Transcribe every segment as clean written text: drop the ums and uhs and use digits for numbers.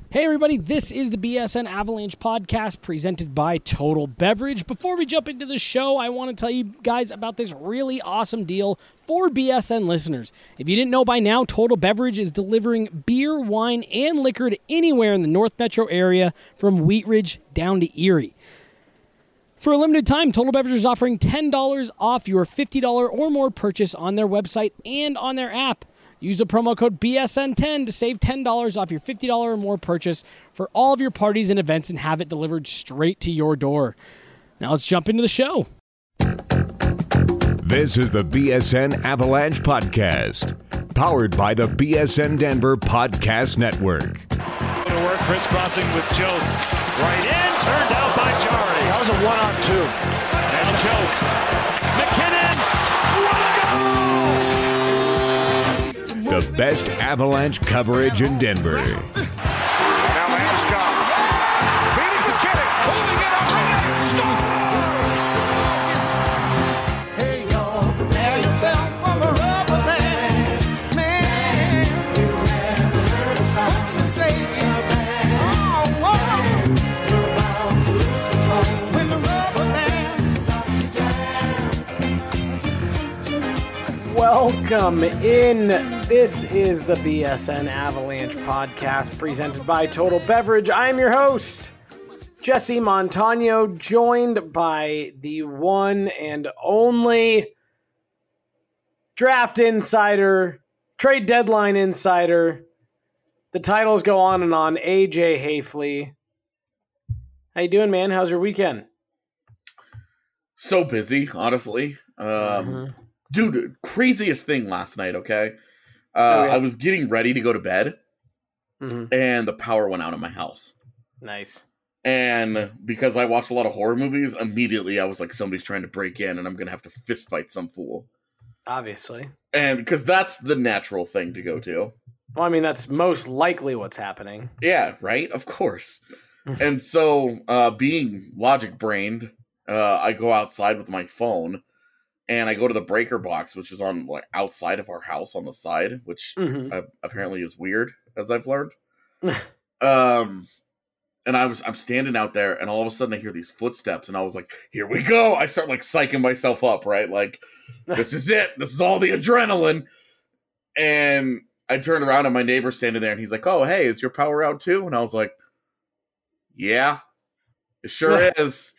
Hey everybody, this is the BSN Avalanche podcast presented by Total Beverage. Before we jump into the show, I want to tell you guys about this really awesome deal for BSN listeners. If you didn't know by now, Total Beverage is delivering beer, wine, and liquor to anywhere in the North Metro area from Wheat Ridge down to Erie. For a limited time, Total Beverage is offering $10 off your $50 or more purchase on their website and on their app. Use the promo code BSN10 to save $10 off your $50 or more purchase for all of your parties and events and have it delivered straight to your door. Now let's jump into the show. This is the BSN Avalanche Podcast, powered by the BSN Denver Podcast Network. To work, crisscrossing with Jost. Right in, turned out by Jari. That was a 1-on-2. And Jost. McKinnon. The best Avalanche coverage in Denver. Now Landeskog. Feeding McKinnon. Holding it up. Hey, y'all, prepare yourself for the rubber band. Man, you never heard a sound so say, oh, whoa. You're about to lose control when the rubber band starts to jam. Welcome in. This is the BSN Avalanche podcast presented by Total Beverage. I am your host, Jesse Montano, joined by the one and only draft insider, trade deadline insider. The titles go on and on. AJ Hayfley. How you doing, man? How's your weekend? So busy, honestly. Dude, craziest thing last night, okay? I was getting ready to go to bed, and the power went out in my house. Nice. And because I watch a lot of horror movies, immediately I was like, somebody's trying to break in, and I'm going to have to fist fight some fool. Obviously. And because that's the natural thing to go to. Well, I mean, that's most likely what's happening. Yeah, right? Of course. And so, being logic-brained, I go outside with my phone, and I go to the breaker box, which is on like outside of our house on the side, which apparently is weird, as I've learned. And I'm standing out there, and all of a sudden I hear these footsteps, and I was like, "Here we go!" I start like psyching myself up, right? Like, this is it. This is all the adrenaline. And I turned around, and my neighbor's standing there, and he's like, "Oh, hey, is your power out too?" And I was like, "Yeah, it sure is."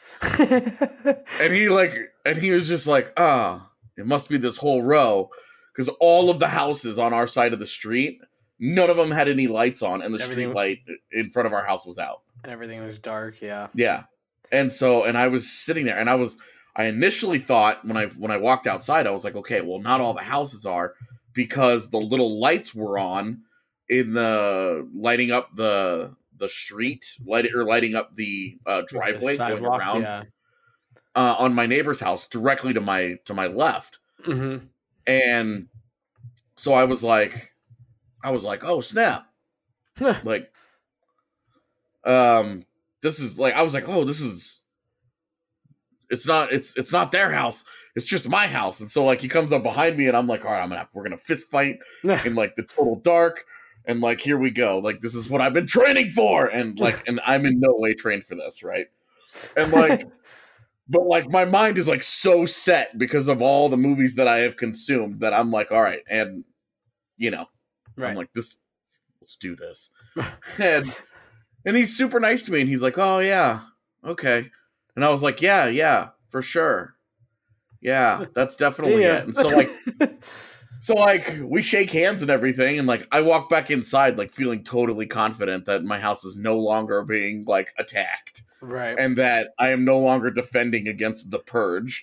And he was just like, it must be this whole row. Because all of the houses on our side of the street, none of them had any lights on, and the street light in front of our house was out. And everything was dark, yeah. Yeah. And I was sitting there, and I initially thought when I walked outside, I was like, okay, well, not all the houses are, because the little lights were on in the lighting up the street, lighting up the driveway the going around on my neighbor's house directly to my left. And so I was like, oh snap. Like, this is like, I was like, oh, it's not their house. It's just my house. And so like, he comes up behind me, and I'm like, all right, we're going to fist fight in like the total dark. And like, here we go. Like, this is what I've been training for. And like, and I'm in no way trained for this. Right. And like, but like, my mind is like so set because of all the movies that I have consumed that I'm like, all right. And you know, I'm like, let's do this. and he's super nice to me. And he's like, oh yeah. Okay. And I was like, yeah, for sure. Yeah, that's definitely it. And so like, we shake hands and everything, and like, I walk back inside, like, feeling totally confident that my house is no longer being like attacked, right? And that I am no longer defending against the purge.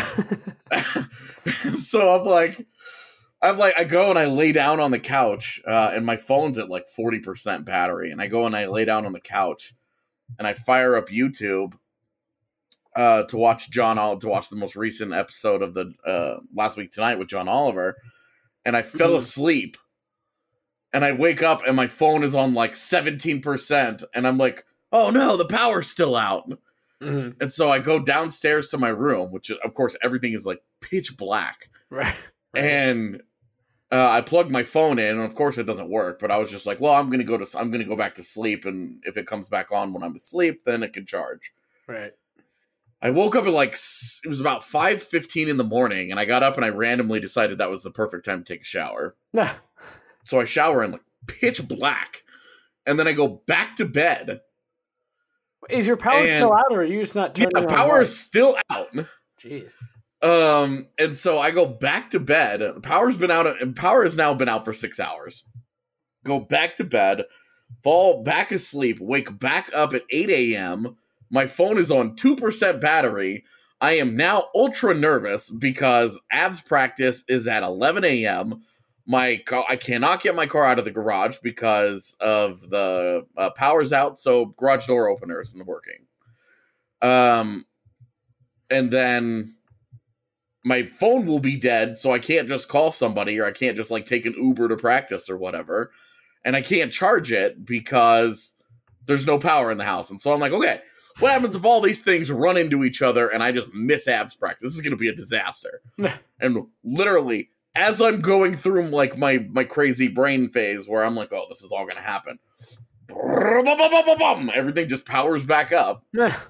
So I go and I lay down on the couch, and my phone's at like 40% battery, and I go and I lay down on the couch, and I fire up YouTube to watch the most recent episode of the Last Week Tonight with John Oliver. And I fell asleep, and I wake up, and my phone is on like 17%, and I'm like, oh no, the power's still out. And so I go downstairs to my room, which of course everything is like pitch black. Right. And I plugged my phone in, and of course it doesn't work. But I was just like, well, I'm gonna go back to sleep, and if it comes back on when I'm asleep, then it can charge. Right. I woke up at it was about 5:15 in the morning, and I got up and I randomly decided that was the perfect time to take a shower. Nah. So I shower in like pitch black, and then I go back to bed. Is your power still out, or are you just not turning on? Yeah, power is still out. Jeez. And so I go back to bed. Power has now been out for 6 hours. Go back to bed, fall back asleep, wake back up at 8 a.m. My phone is on 2% battery. I am now ultra nervous because abs practice is at 11 a.m. I cannot get my car out of the garage because of the power's out, so garage door opener isn't working. And then my phone will be dead, so I can't just call somebody, or I can't just like take an Uber to practice or whatever. And I can't charge it because there's no power in the house. And so I'm like, okay, what happens if all these things run into each other and I just miss abs practice? This is going to be a disaster. And literally, as I'm going through like my crazy brain phase where I'm like, oh, this is all going to happen, everything just powers back up.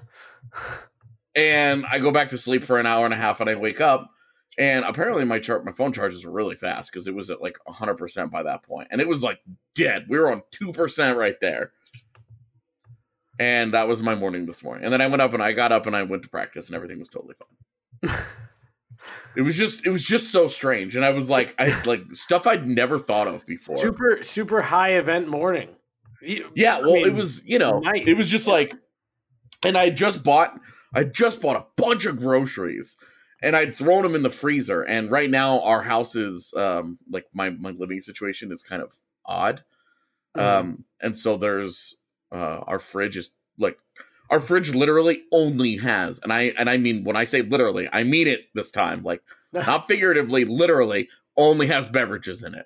And I go back to sleep for an hour and a half, and I wake up, and apparently my phone charges really fast because it was at like 100% by that point, and it was like dead. We were on 2% right there, and that was my morning this morning. And then I got up and I went to practice, and everything was totally fine. It was just so strange, and I was like, stuff I'd never thought of before. Super high event morning. Yeah, well, it was nice. It was just like, and I just bought a bunch of groceries, and I'd thrown them in the freezer. And right now our house is like my living situation is kind of odd. And so there's our fridge literally only has, and I mean, when I say literally, I mean it this time, like not figuratively, literally only has beverages in it.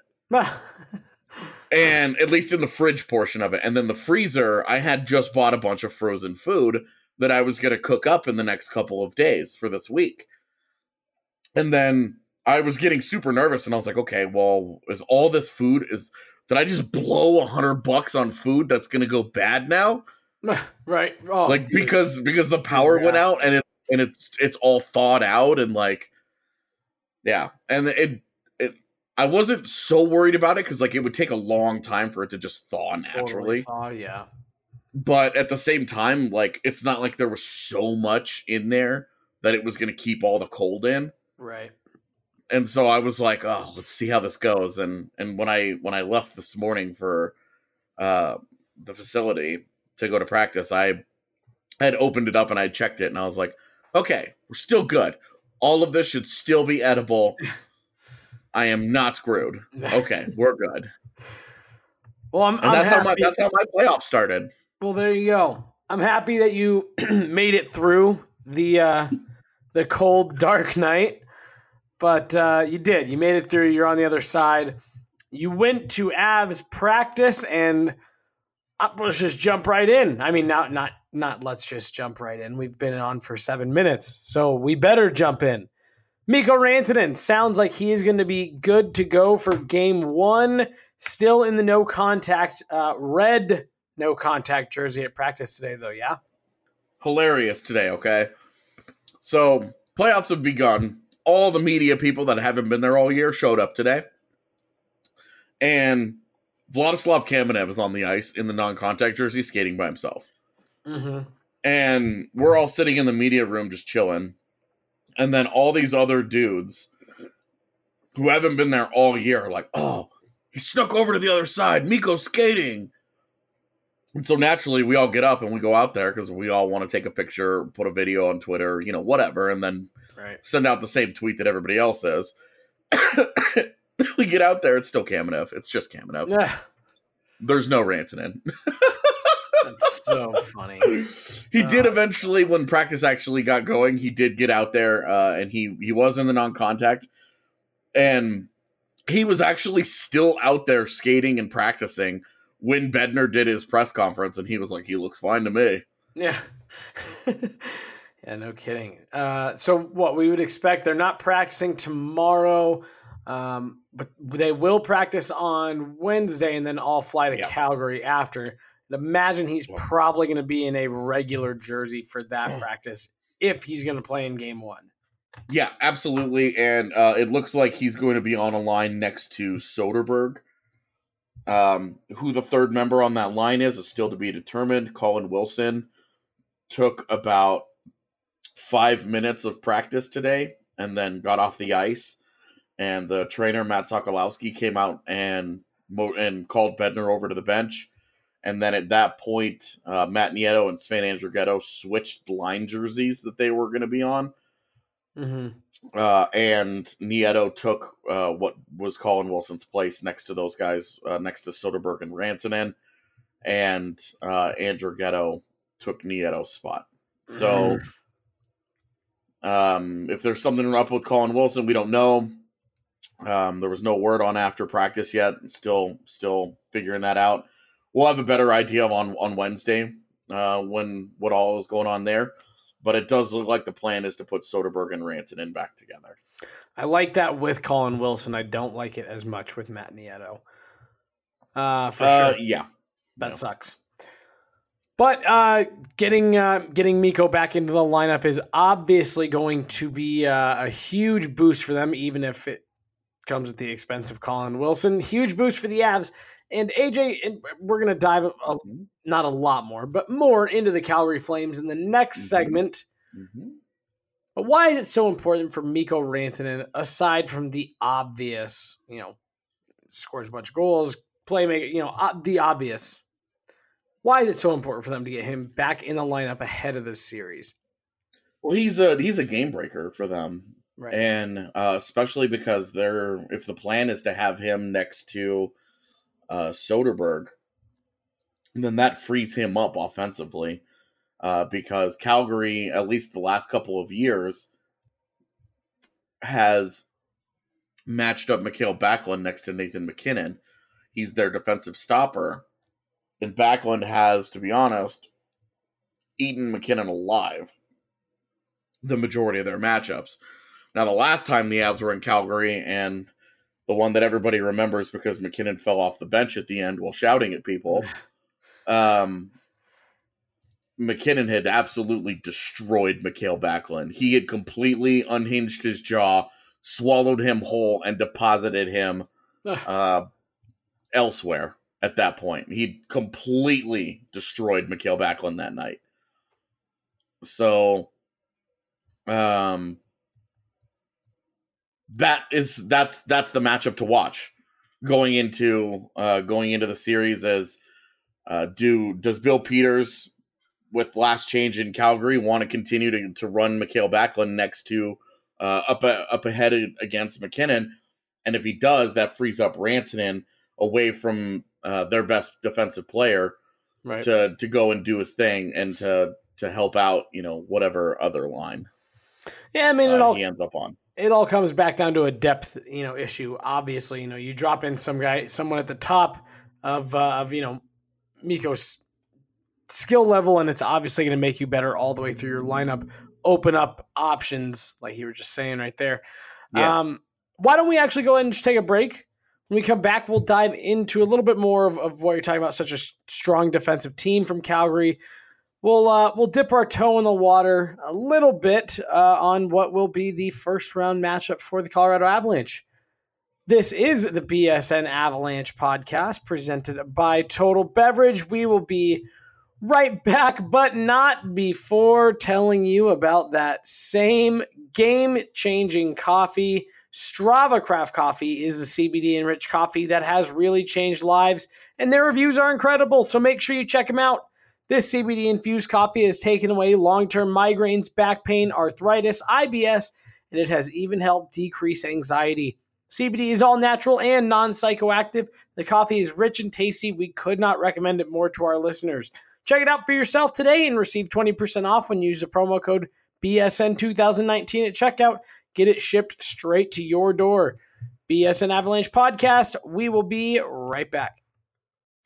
And at least in the fridge portion of it. And then the freezer, I had just bought a bunch of frozen food that I was going to cook up in the next couple of days for this week. And then I was getting super nervous, and I was like, okay, well, is all this food did I just blow $100 on food that's going to go bad now? Right. Oh, like, dude. because the power went out, and it's all thawed out, and like, yeah. And I wasn't so worried about it because like it would take a long time for it to just thaw naturally. Oh yeah. But at the same time, like, it's not like there was so much in there that it was going to keep all the cold in. Right. And so I was like, oh, let's see how this goes. And when I left this morning for the facility to go to practice, I had opened it up and I checked it, and I was like, okay, we're still good. All of this should still be edible. I am not screwed. Okay, we're good. Well, that's how my playoff started. Well, there you go. I'm happy that you made it through the cold, dark night, but you did. You made it through. You're on the other side. You went to abs practice, and let's just jump right in. I mean, not let's just jump right in. We've been on for 7 minutes, so we better jump in. Mikko Rantanen sounds like he is going to be good to go for game 1. Still in the no contact red no contact jersey at practice today, though, yeah? Hilarious today, okay? So, playoffs have begun. All the media people that haven't been there all year showed up today. And Vladislav Kamenev is on the ice in the non-contact jersey skating by himself. Mm-hmm. And we're all sitting in the media room just chilling. And then all these other dudes who haven't been there all year are like, oh, he snuck over to the other side. Mikko's skating. And so naturally, we all get up and we go out there because we all want to take a picture, put a video on Twitter, whatever, and then send out the same tweet that everybody else says. We get out there, it's still Kamenev. It's just Kamenev. Yeah. There's no Rantanen. That's so funny. He did eventually, when practice actually got going, he did get out there, and he was in the non-contact. And he was actually still out there skating and practicing when Bednar did his press conference, and he was like, he looks fine to me. Yeah. Yeah, no kidding. So what we would expect, they're not practicing tomorrow. But they will practice on Wednesday and then all fly to Calgary after. And imagine he's probably going to be in a regular jersey for that practice if he's going to play in game 1. Yeah, absolutely. And it looks like he's going to be on a line next to Soderberg. Who the third member on that line is still to be determined. Colin Wilson took about 5 minutes of practice today and then got off the ice. And the trainer, Matt Sokolowski, came out and called Bednar over to the bench. And then at that point, Matt Nieto and Sven Andrighetto switched line jerseys that they were going to be on. Mm-hmm. And Nieto took what was Colin Wilson's place next to those guys, next to Soderberg and Rantanen. And Andrighetto took Nieto's spot. So if there's something up with Colin Wilson, we don't know. There was no word on after practice yet. Still figuring that out. We'll have a better idea on Wednesday what all is going on there. But it does look like the plan is to put Soderberg and Rantanen back together. I like that with Colin Wilson. I don't like it as much with Matt Nieto. For sure. Yeah. That sucks. But getting Mikko back into the lineup is obviously going to be a huge boost for them, even if it comes at the expense of Colin Wilson. Huge boost for the Avs. And AJ, we're going to dive not a lot more, but more into the Calgary Flames in the next segment. Mm-hmm. But why is it so important for Mikko Rantanen, aside from the obvious, scores a bunch of goals, playmaker, the obvious? Why is it so important for them to get him back in the lineup ahead of this series? Well, he's a game breaker for them. Right. And especially because if the plan is to have him next to Soderberg, then that frees him up offensively because Calgary, at least the last couple of years, has matched up Mikael Backlund next to Nathan MacKinnon. He's their defensive stopper. And Backlund has, to be honest, eaten MacKinnon alive the majority of their matchups. Now, the last time the Avs were in Calgary, and the one that everybody remembers because MacKinnon fell off the bench at the end while shouting at people, MacKinnon had absolutely destroyed Mikael Backlund. He had completely unhinged his jaw, swallowed him whole, and deposited him elsewhere at that point. He completely destroyed Mikael Backlund that night. So, that's the matchup to watch going into the series. As does Bill Peters, with last change in Calgary, want to continue to run Mikael Backlund next to up ahead against MacKinnon? And if he does, that frees up Rantanen away from their best defensive player, right, to go and do his thing and to help out whatever other line. Yeah, I mean he ends up on. It all comes back down to a depth, issue. Obviously, you drop in someone at the top of Mikko's skill level, and it's obviously going to make you better all the way through your lineup. Open up options, like you were just saying right there. Yeah. Why don't we actually go ahead and just take a break? When we come back, we'll dive into a little bit more of what you're talking about, such a strong defensive team from Calgary. We'll dip our toe in the water a little bit on what will be the first round matchup for the Colorado Avalanche. This is the BSN Avalanche podcast presented by Total Beverage. We will be right back, but not before telling you about that same game-changing coffee. Strava Craft Coffee is the CBD-enriched coffee that has really changed lives, and their reviews are incredible, so make sure you check them out. This CBD-infused coffee has taken away long-term migraines, back pain, arthritis, IBS, and it has even helped decrease anxiety. CBD is all natural and non-psychoactive. The coffee is rich and tasty. We could not recommend it more to our listeners. Check it out for yourself today and receive 20% off when you use the promo code BSN2019 at checkout. Get it shipped straight to your door. BSN Avalanche Podcast. We will be right back.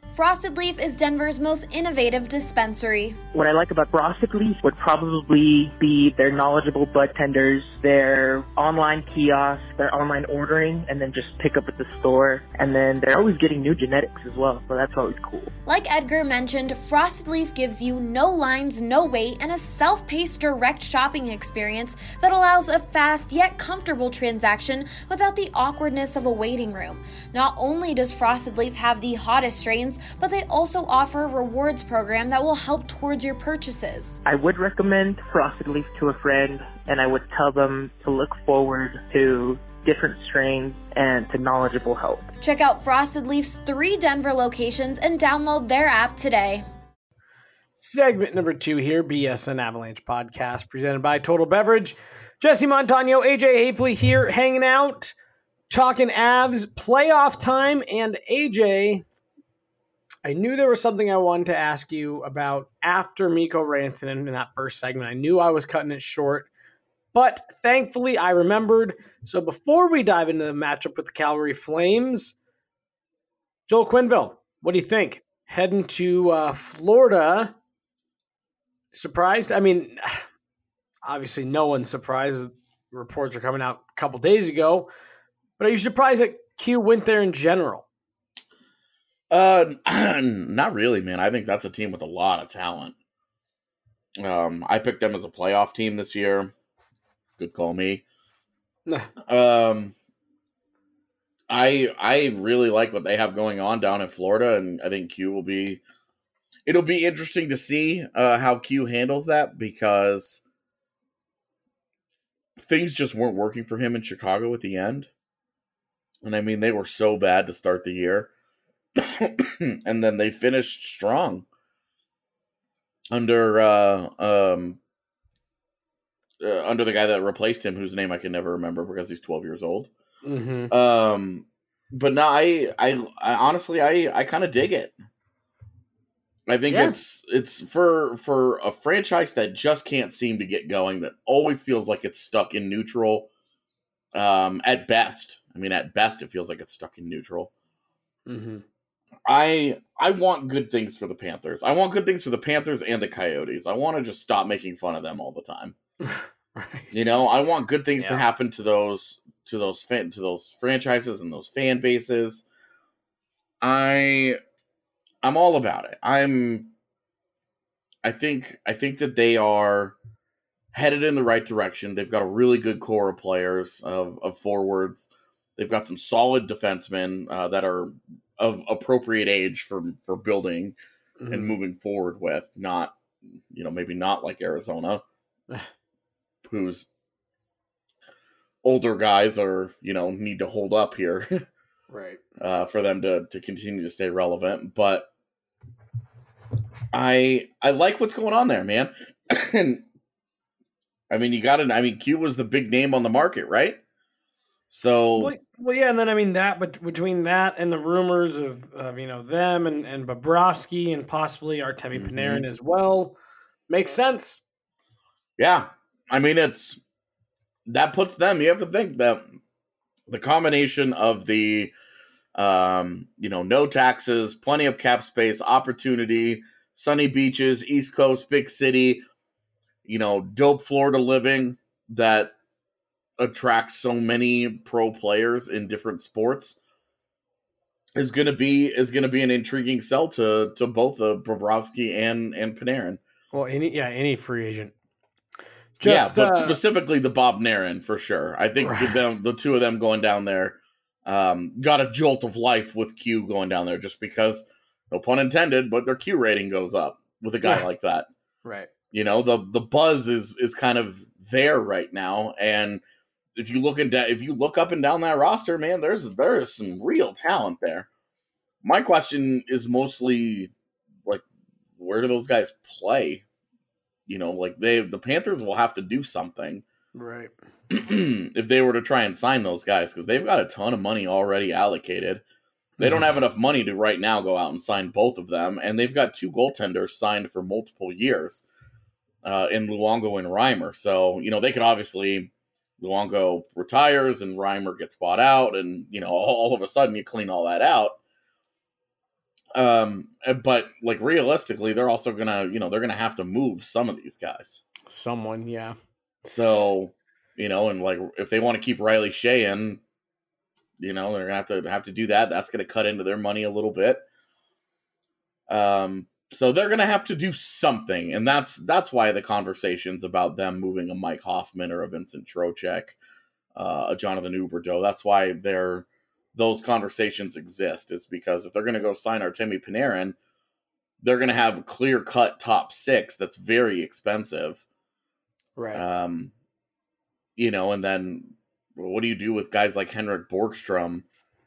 Frosted Leaf is Denver's most innovative dispensary. What I like about Frosted Leaf would probably be their knowledgeable bud tenders, their online kiosks, their online ordering, and then just pick up at the store. And then they're always getting new genetics as well, so that's always cool. Like Edgar mentioned, Frosted Leaf gives you no lines, no wait, and a self-paced direct shopping experience that allows a fast yet comfortable transaction without the awkwardness of a waiting room. Not only does Frosted Leaf have the hottest strains, but they also offer a rewards program that will help towards your purchases. I would recommend Frosted Leaf to a friend, and I would tell them to look forward to different strains and to knowledgeable help. Check out Frosted Leaf's 3 Denver locations and download their app today. Segment number 2 here, BSN Avalanche podcast, presented by Total Beverage. Jesse Montano, AJ Hafley here, hanging out, talking Avs, playoff time, and AJ, I knew there was something I wanted to ask you about after Mikko Rantanen in that first segment. I knew I was cutting it short, but thankfully I remembered. So before we dive into the matchup with the Calgary Flames, Joel Quenneville, what do you think? Heading to Florida, surprised? I mean, obviously no one's surprised. Reports are coming out a couple days ago, but are you surprised that Q went there in general? Not really, man. I think that's a team with a lot of talent. I picked them as a playoff team this year. Good call me. I really like what they have going on down in Florida, and I think it'll be interesting to see how Q handles that, because things just weren't working for him in Chicago at the end. And I mean, they were so bad to start the year. And then they finished strong under the guy that replaced him, whose name I can never remember because he's 12 years old. Mm-hmm. But no, I honestly, I kind of dig it. I think it's for a franchise that just can't seem to get going, that always feels like it's stuck in neutral. At best, it feels like it's stuck in neutral. Mm-hmm. I want good things for the Panthers. I want good things for the Panthers and the Coyotes. I want to just stop making fun of them all the time. Right. You know, I want good things to happen to those franchises and those fan bases. I'm all about it. I think that they are headed in the right direction. They've got a really good core of players, of forwards. They've got some solid defensemen that are of appropriate age for building and moving forward with. Not, maybe not like Arizona, whose older guys are, need to hold up here. Right. For them to continue to stay relevant. But I like what's going on there, man. And Q was the big name on the market, right? So well, yeah, and then that between that and the rumors of them and Bobrovsky and possibly Artemi Panarin as well, makes sense. Yeah, that puts them. You have to think that the combination of the no taxes, plenty of cap space, opportunity, sunny beaches, East Coast, big city, dope Florida living that attracts so many pro players in different sports is going to be an intriguing sell to both Bobrovsky and Panarin. Well, any free agent. But specifically the Bob Narin for sure. I think the two of them going down there got a jolt of life with Q going down there, just because, no pun intended, but their Q rating goes up with a guy like that. Right. The buzz is kind of there right now, and if you look up and down that roster, man, there's some real talent there. My question is mostly like, where do those guys play? The Panthers will have to do something, right? If they were to try and sign those guys, because they've got a ton of money already allocated. They don't have enough money to right now go out and sign both of them, and they've got 2 goaltenders signed for multiple years in Luongo and Reimer. So they could obviously, Luongo retires and Reimer gets bought out, and all of a sudden you clean all that out. But like realistically, they're also gonna, they're gonna have to move some of these guys. Someone, yeah. So, and like if they want to keep Riley Shea in, they're gonna have to do that. That's gonna cut into their money a little bit. So they're gonna have to do something, and that's why the conversations about them moving a Mike Hoffman or a Vincent Trocheck, a Jonathan Huberdeau, that's why those conversations exist, is because if they're gonna go sign Artemi Panarin, they're gonna have a clear-cut top six that's very expensive. Right. And then what do you do with guys like Henrik Borgstrom?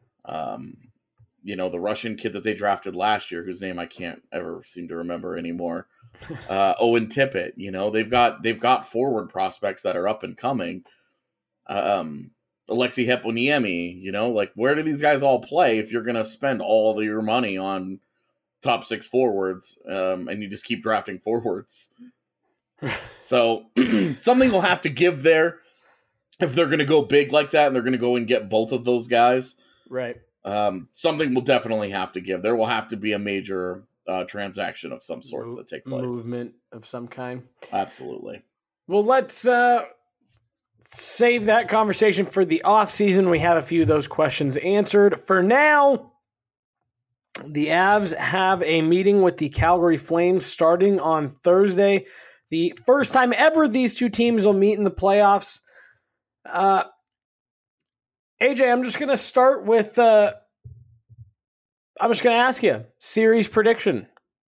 The Russian kid that they drafted last year, whose name I can't ever seem to remember anymore. Owen Tippett, they've got forward prospects that are up and coming. Alexei Heponiemi, like where do these guys all play if you're going to spend all of your money on top six forwards and you just keep drafting forwards? So something will have to give there if they're going to go big like that and they're going to go and get both of those guys. Right. Something will definitely have to give. There will have to be a major transaction of some sorts that take place. Movement of some kind. Absolutely. Well, let's save that conversation for the off season. We have a few of those questions answered. For now, the Avs have a meeting with the Calgary Flames starting on Thursday. The first time ever these two teams will meet in the playoffs. AJ, I'm just going to start with, I'm just going to ask you, series prediction.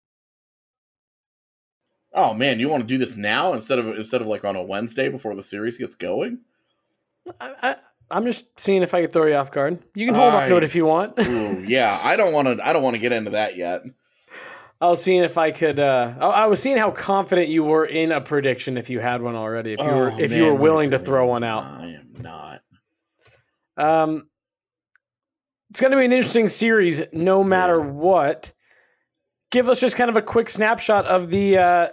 Oh man, you want to do this now instead of like on a Wednesday before the series gets going? I'm just seeing if I can throw you off guard. You can hold on to it if you want. Ooh, yeah, I don't want to get into that yet. I was seeing if I could. I was seeing how confident you were in a prediction if you had one already. If you were willing to throw one out. I am not. It's going to be an interesting series, no matter what. Give us just kind of a quick snapshot of the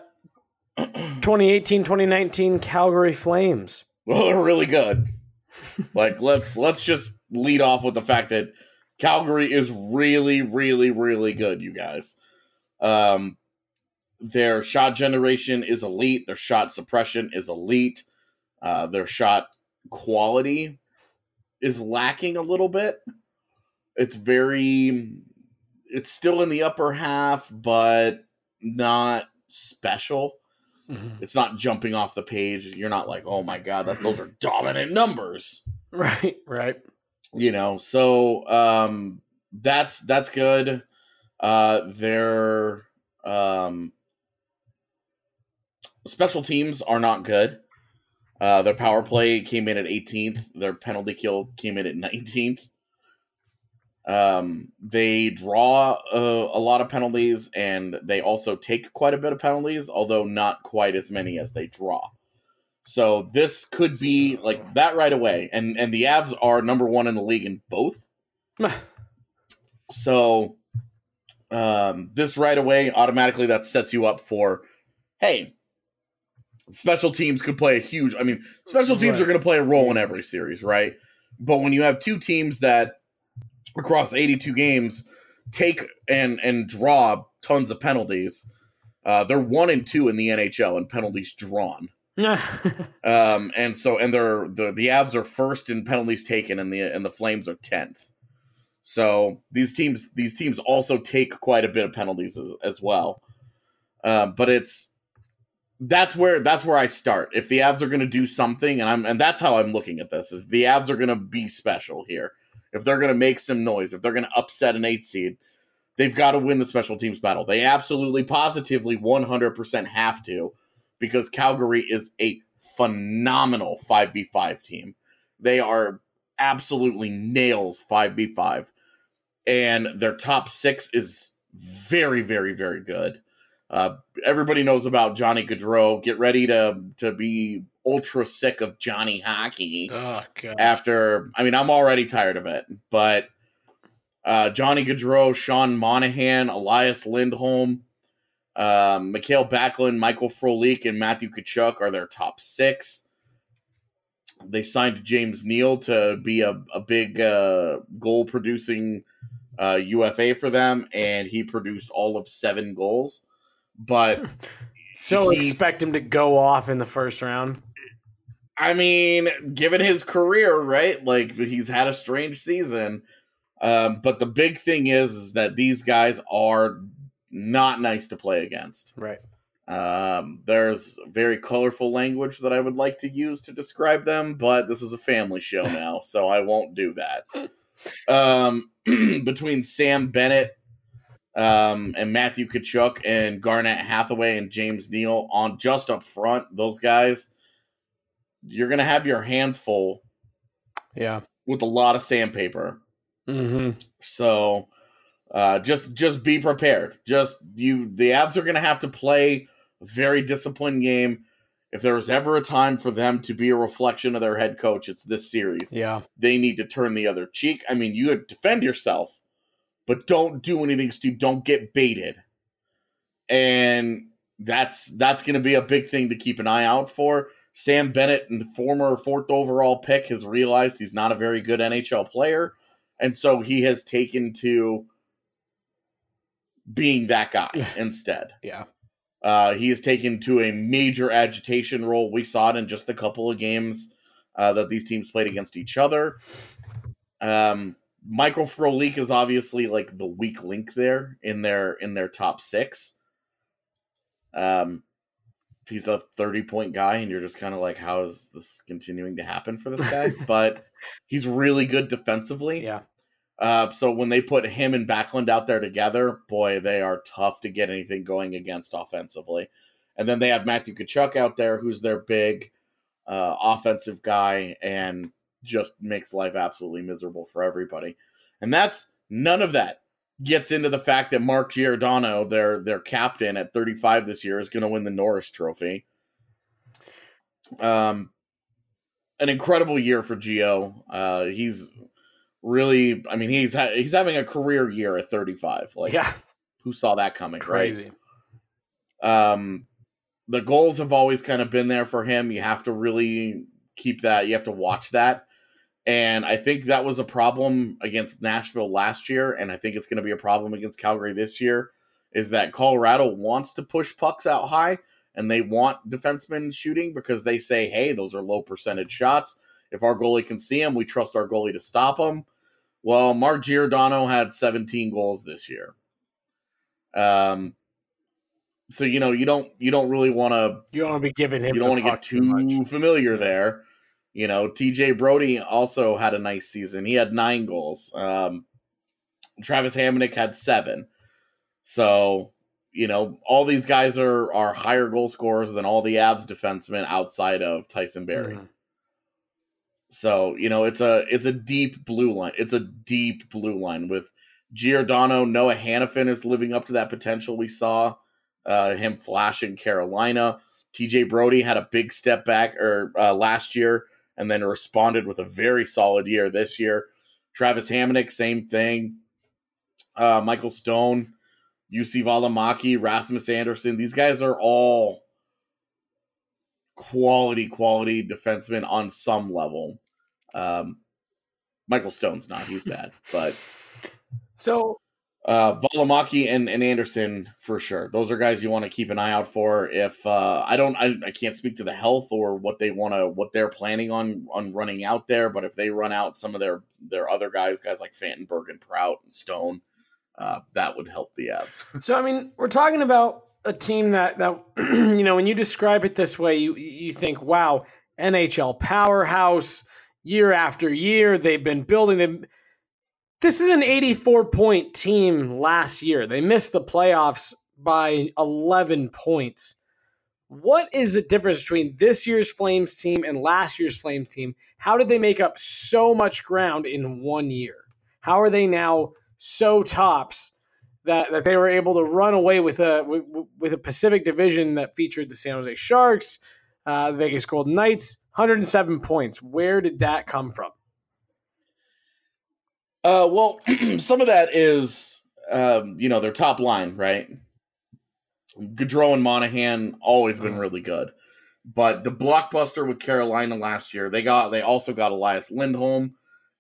2018-2019 Calgary Flames. Well, they're really good. Like let's just lead off with the fact that Calgary is really, really, really good, you guys. Their shot generation is elite. Their shot suppression is elite. Their shot quality is lacking a little bit. It's still in the upper half, but not special. Mm-hmm. It's not jumping off the page. You're not like, oh my God, those are dominant numbers. Right. So that's good. Their special teams are not good. Their power play came in at 18th. Their penalty kill came in at 19th. They draw a lot of penalties, and they also take quite a bit of penalties, although not quite as many as they draw. So this could be like that right away. And the Avs are number one in the league in both. So this right away, automatically that sets you up for, hey, special teams could play special teams are going to play a role in every series, right? But when you have two teams that across 82 games take and draw tons of penalties, they're 1 and 2 in the NHL in penalties drawn. And the Avs are first in penalties taken, and the Flames are 10th. So these teams also take quite a bit of penalties as well. But that's where I start. If the Avs are going to do something, and that's how I'm looking at this, is the Avs are going to be special here. If they're going to make some noise, if they're going to upset an 8 seed, they've got to win the special teams battle. They absolutely, positively, 100% have to, because Calgary is a phenomenal 5v5 team. They are absolutely nails 5v5. And their top 6 is very, very, very good. Everybody knows about Johnny Gaudreau. Get ready to be ultra sick of Johnny hockey. Oh, God. I'm already tired of it. But Johnny Gaudreau, Sean Monahan, Elias Lindholm, Mikhail Backlund, Michael Frolik, and Matthew Tkachuk are their top 6. They signed James Neal to be a big goal-producing UFA for them, and he produced all of 7 goals. But so expect him to go off in the first round. I mean, given his career, right? Like, he's had a strange season. But the big thing is that these guys are not nice to play against. Right. There's very colorful language that I would like to use to describe them, but this is a family show now, so I won't do that. Between Sam Bennett and Matthew Tkachuk and Garnett Hathaway and James Neal on just up front, those guys, you're going to have your hands full with a lot of sandpaper. Mm-hmm. So just be prepared. The Avs are going to have to play a very disciplined game. If there was ever a time for them to be a reflection of their head coach, it's this series. Yeah. They need to turn the other cheek. I mean, you defend yourself, but don't do anything stupid. Don't get baited. And that's going to be a big thing to keep an eye out for. Sam Bennett, the former 4th overall pick, has realized he's not a very good NHL player. And so he has taken to being that guy instead. Yeah. He has taken to a major agitation role. We saw it in just a couple of games that these teams played against each other. Michael Frolik is obviously like the weak link there in their top 6. He's a 30-point guy, and you're just kind of like, how is this continuing to happen for this guy? But he's really good defensively. Yeah. So when they put him and Backlund out there together, boy, they are tough to get anything going against offensively. And then they have Matthew Tkachuk out there, who's their big offensive guy, and just makes life absolutely miserable for everybody. And none of that gets into the fact that Mark Giordano, their captain at 35 this year, is going to win the Norris Trophy. An incredible year for Gio. He's really, I mean, he's having a career year at 35. Like, who saw that coming? Crazy. Right? The goals have always kind of been there for him. You have to really keep that. You have to watch that. And I think that was a problem against Nashville last year, and I think it's going to be a problem against Calgary this year, is that Colorado wants to push pucks out high, and they want defensemen shooting because they say, hey, those are low percentage shots. If our goalie can see them, we trust our goalie to stop them. Well, Mark Giordano had 17 goals this year. So, you don't really want to... You don't want to be giving him... You don't want to get too familiar there. TJ Brody also had a nice season. He had 9 goals. Travis Hamonic had 7. So, all these guys are higher goal scorers than all the Avs defensemen outside of Tyson Barrie. Mm-hmm. So, it's a deep blue line. It's a deep blue line with Giordano. Noah Hannafin is living up to that potential we saw him flash in Carolina. TJ Brody had a big step back last year, and then responded with a very solid year this year. Travis Hamonic, same thing. Michael Stone, UC Valimaki, Rasmus Anderson. These guys are all quality defensemen on some level. Michael Stone's not. He's bad. But so Valimaki and Anderson for sure. Those are guys you want to keep an eye out for. If I can't speak to the health or what they're planning on running out there, but if they run out some of their other guys like Fantenberg and Prout and Stone, that would help the Avs. So I mean, we're talking about a team that when you describe it this way, you think, wow, NHL powerhouse year after year. They've been building them. This is an 84-point team last year. They missed the playoffs by 11 points. What is the difference between this year's Flames team and last year's Flames team? How did they make up so much ground in 1 year? How are they now so tops that they were able to run away with a Pacific Division that featured the San Jose Sharks, the Vegas Golden Knights, 107 points? Where did that come from? Well, some of that is, their top line, right? Gaudreau and Monahan always been really good, but the blockbuster with Carolina last year, they also got Elias Lindholm,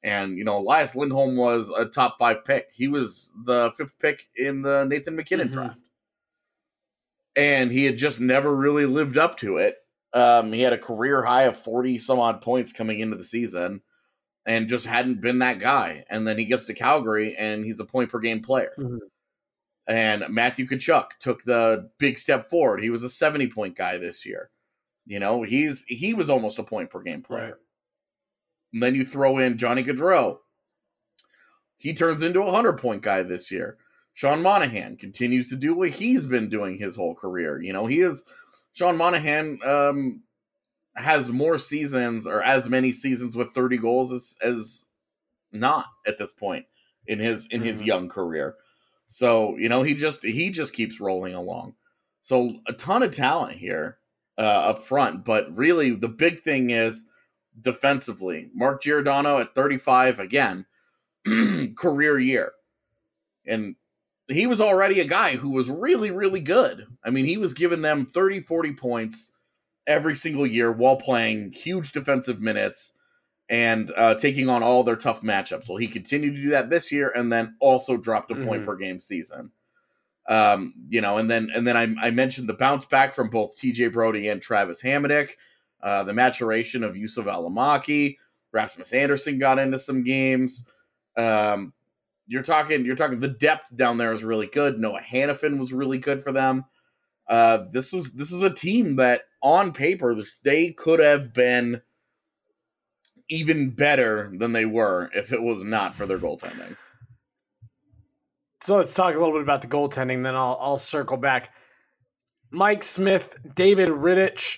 And, Elias Lindholm was a top 5 pick. He was the 5th pick in the Nathan McKinnon draft. And he had just never really lived up to it. He had a career high of 40 some odd points coming into the season and just hadn't been that guy. And then he gets to Calgary and he's a point per game player. And Matthew Tkachuk took the big step forward. He was a 70-point guy this year. He was almost a point per game player. Right. And then you throw in Johnny Gaudreau. He turns into a 100-point guy this year. Sean Monahan continues to do what he's been doing his whole career. Sean Monahan has more seasons or as many seasons with 30 goals as not at this point in his young career. So, he just keeps rolling along. So a ton of talent here up front, but really the big thing is defensively. Mark Giordano at 35 again, career year. And he was already a guy who was really, really good. I mean, he was giving them 30, 40 points every single year while playing huge defensive minutes and taking on all their tough matchups. Well, he continued to do that this year and then also dropped a point per game season. And then I mentioned the bounce back from both TJ Brody and Travis Hamonic, the maturation of Yusuf Alamaki. Rasmus Anderson got into some games. You're talking the depth down there is really good. Noah Hannafin was really good for them. This is a team that on paper they could have been even better than they were if it was not for their goaltending. So let's talk a little bit about the goaltending, then I'll circle back. Mike Smith, David Rittich,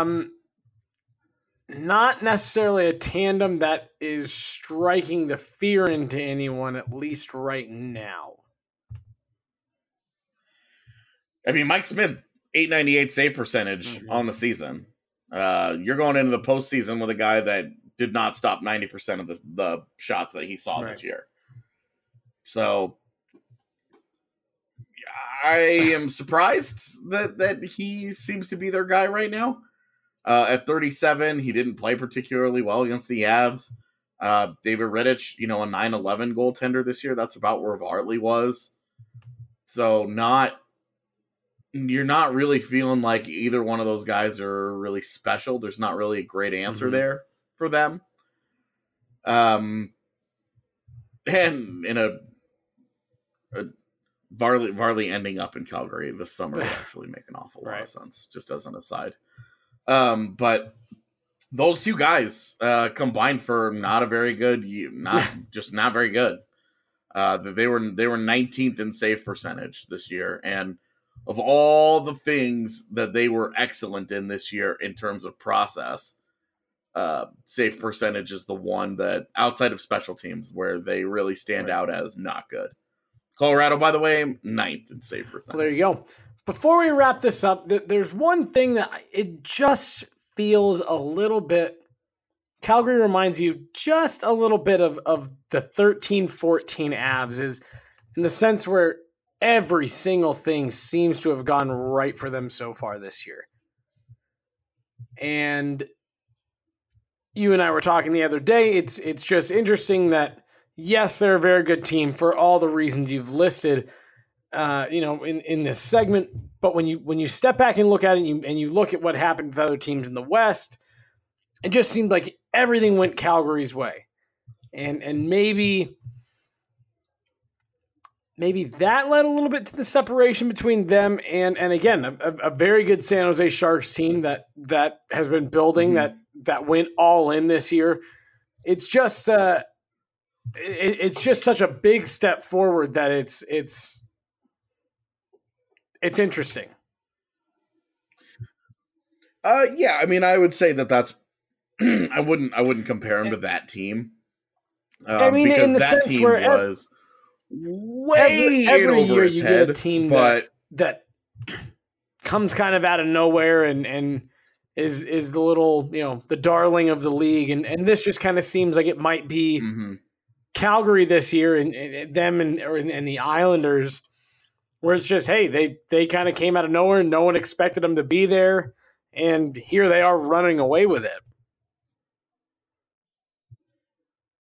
not necessarily a tandem that is striking the fear into anyone, at least right now. I mean, Mike Smith, 898 save percentage on the season. You're going into the postseason with a guy that did not stop 90% of the shots that he saw this year. So I am surprised that he seems to be their guy right now. At 37, he didn't play particularly well against the Avs. David Rittich, a 9-11 goaltender this year. That's about where Vartley was. So you're not really feeling like either one of those guys are really special. There's not really a great answer there for them. And in a Varley ending up in Calgary this summer would actually make an awful lot of sense, just as an aside. But those two guys combined for not a very good, not very good. They were 19th in save percentage this year, and of all the things that they were excellent in this year in terms of process, save percentage is the one that outside of special teams where they really stand out as not good. Colorado, by the way, 9th in save percentage. Well, there you go. Before we wrap this up, there's one thing that it just feels a little bit, Calgary reminds you just a little bit of the 13-14 Avs, is in the sense where every single thing seems to have gone right for them so far this year. And you and I were talking the other day, it's just interesting that, yes, they're a very good team for all the reasons you've listed, in this segment. But when you step back and look at it and you look at what happened with other teams in the West, it just seemed like everything went Calgary's way. And maybe that led a little bit to the separation between them and again, a very good San Jose Sharks team that has been building, that went all in this year. It's just it's just such a big step forward that it's interesting. Yeah, I mean, I would say that's I wouldn't compare him to that team. I mean, because in the that sense team where was way every over year its you head, get a team but that comes kind of out of nowhere and is the little, the darling of the league, and this just kind of seems like it might be Calgary this year and them and the Islanders, where it's just, hey, they kind of came out of nowhere and no one expected them to be there, and here they are running away with it.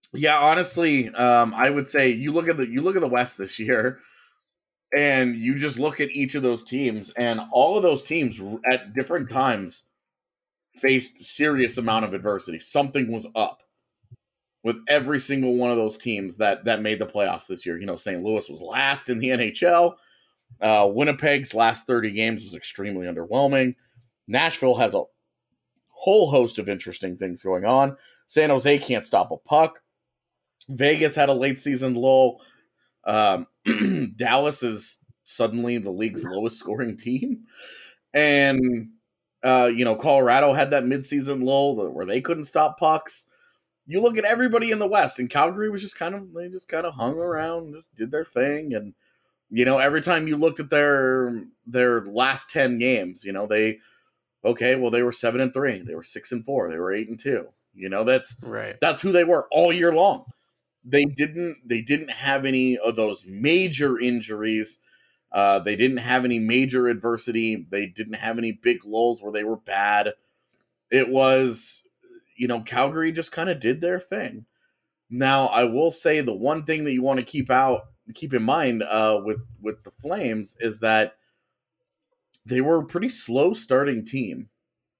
Yeah, honestly, I would say you look at the West this year, and you just look at each of those teams, and all of those teams at different times faced serious amount of adversity. Something was up with every single one of those teams that made the playoffs this year. St. Louis was last in the NHL. Winnipeg's last 30 games was extremely underwhelming. Nashville has a whole host of interesting things going on. San Jose can't stop a puck. Vegas had a late season lull. Dallas is suddenly the league's lowest scoring team. And, Colorado had that midseason lull where they couldn't stop pucks. You look at everybody in the West, and Calgary was just kind of hung around, just did their thing. And, every time you looked at their last 10 games, they were 7-3, they were 6-4, they were 8-2. That's who they were all year long. They didn't have any of those major injuries. They didn't have any major adversity. They didn't have any big lulls where they were bad. It was, Calgary just kind of did their thing. Now, I will say the one thing that you want to keep in mind with the Flames is that they were a pretty slow starting team.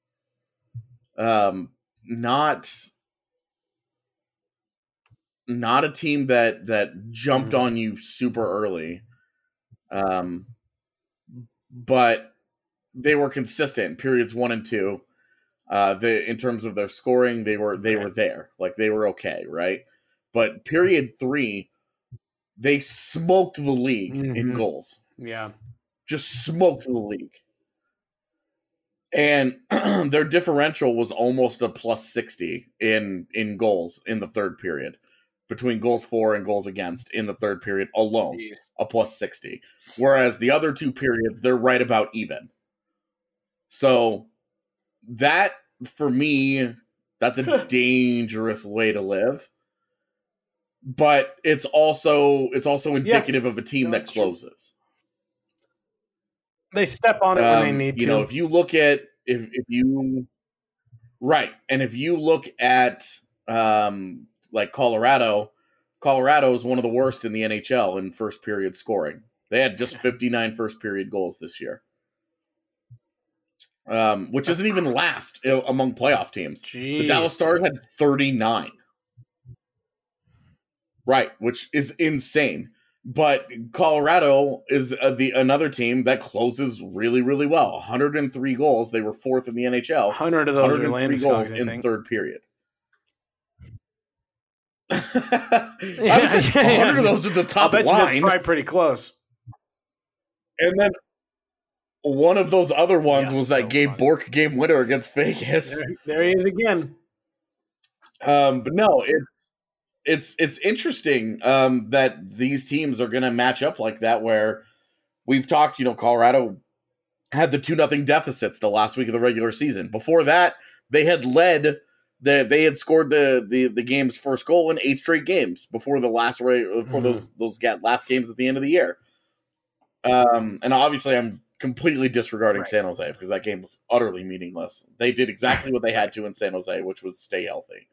Not a team that jumped on you super early. But they were consistent periods 1 and 2. In terms of their scoring, they were there. Like, they were okay, right? But period 3, they smoked the league in goals. Yeah. Just smoked the league. And their differential was almost a plus 60 in goals in the third period. Between goals for and goals against in the third period alone, a plus 60. Whereas the other two periods, they're right about even. So that, for me, that's a dangerous way to live. But it's also indicative of a team that closes. They step on it when they need to. If you look at if you look at like Colorado is one of the worst in the NHL in first period scoring. They had just 59 first period goals this year. Which isn't even last among playoff teams. Jeez. The Dallas Stars had 39. Right, which is insane. But Colorado is another team that closes really, really well. 103 goals. They were fourth in the NHL. 100 of those are 103 goals in third period. I would say 100 of those are the top line. That's probably pretty close. And then one of those other ones was that Gabe Bourque game winner against Vegas. There he is again. But no, it's interesting that these teams are going to match up like that, where we've talked, Colorado had the 2-0 deficits the last week of the regular season. Before that, they had led. They had scored the game's first goal in 8 straight games before the last those last games at the end of the year. And obviously, I'm completely disregarding San Jose because that game was utterly meaningless. They did exactly what they had to in San Jose, which was stay healthy.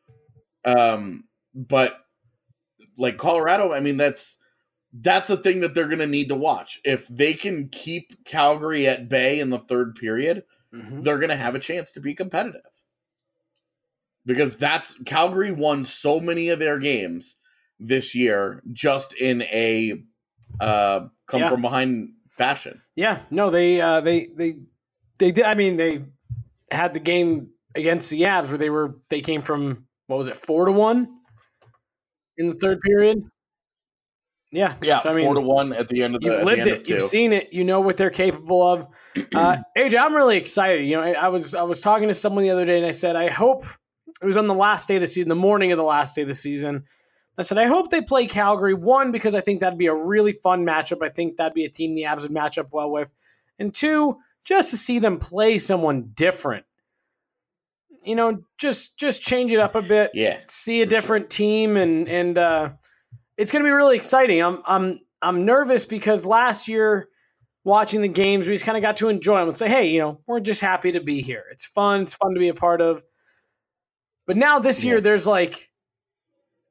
But like Colorado, I mean, that's the thing that they're going to need to watch. If they can keep Calgary at bay in the third period, they're going to have a chance to be competitive. Because Calgary won so many of their games this year just in a come from behind fashion. Yeah, no, they did. I mean, they had the game against the Avs where they came from 4-1 in the third period. Yeah. So, 4-1 at the end of the. You've lived it. You've seen it. You know what they're capable of. AJ, I'm really excited. I was talking to someone the other day, and I said, I hope it was on the last day of the season, the morning of the last day of the season. I said, I hope they play Calgary. One, because I think that'd be a really fun matchup. I think that'd be a team the Avs would match up well with. And two, just to see them play someone different. Just change it up a bit. Yeah. See a different team, and it's going to be really exciting. I'm nervous because last year watching the games, we just kind of got to enjoy them and say, hey, we're just happy to be here. It's fun. It's fun to be a part of. But now this year, there's like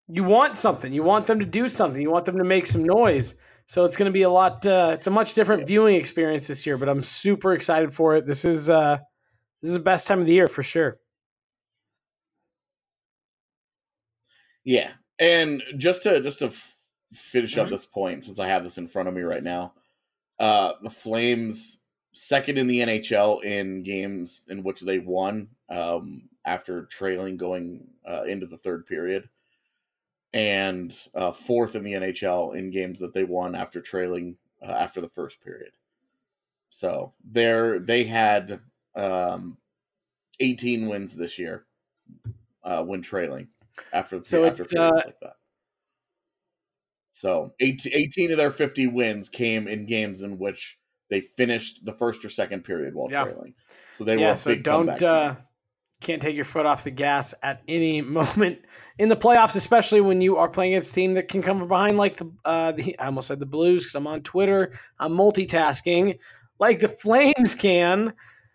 you want something. You want them to do something. You want them to make some noise. So it's going to be a lot. It's a much different viewing experience this year, but I'm super excited for it. This is the best time of the year for sure. Yeah, and just to finish up this point, since I have this in front of me right now, the Flames second in the NHL in games in which they won after trailing going into the third period, and fourth in the NHL in games that they won after trailing after the first period. So they had 18 wins this year when trailing after periods like that. So 18 of their 50 wins came in games in which they finished the first or second period while trailing. So they were a big comeback team. Can't take your foot off the gas at any moment in the playoffs, especially when you are playing against a team that can come from behind, like I almost said the Blues because I'm on Twitter. I'm multitasking, like the Flames can.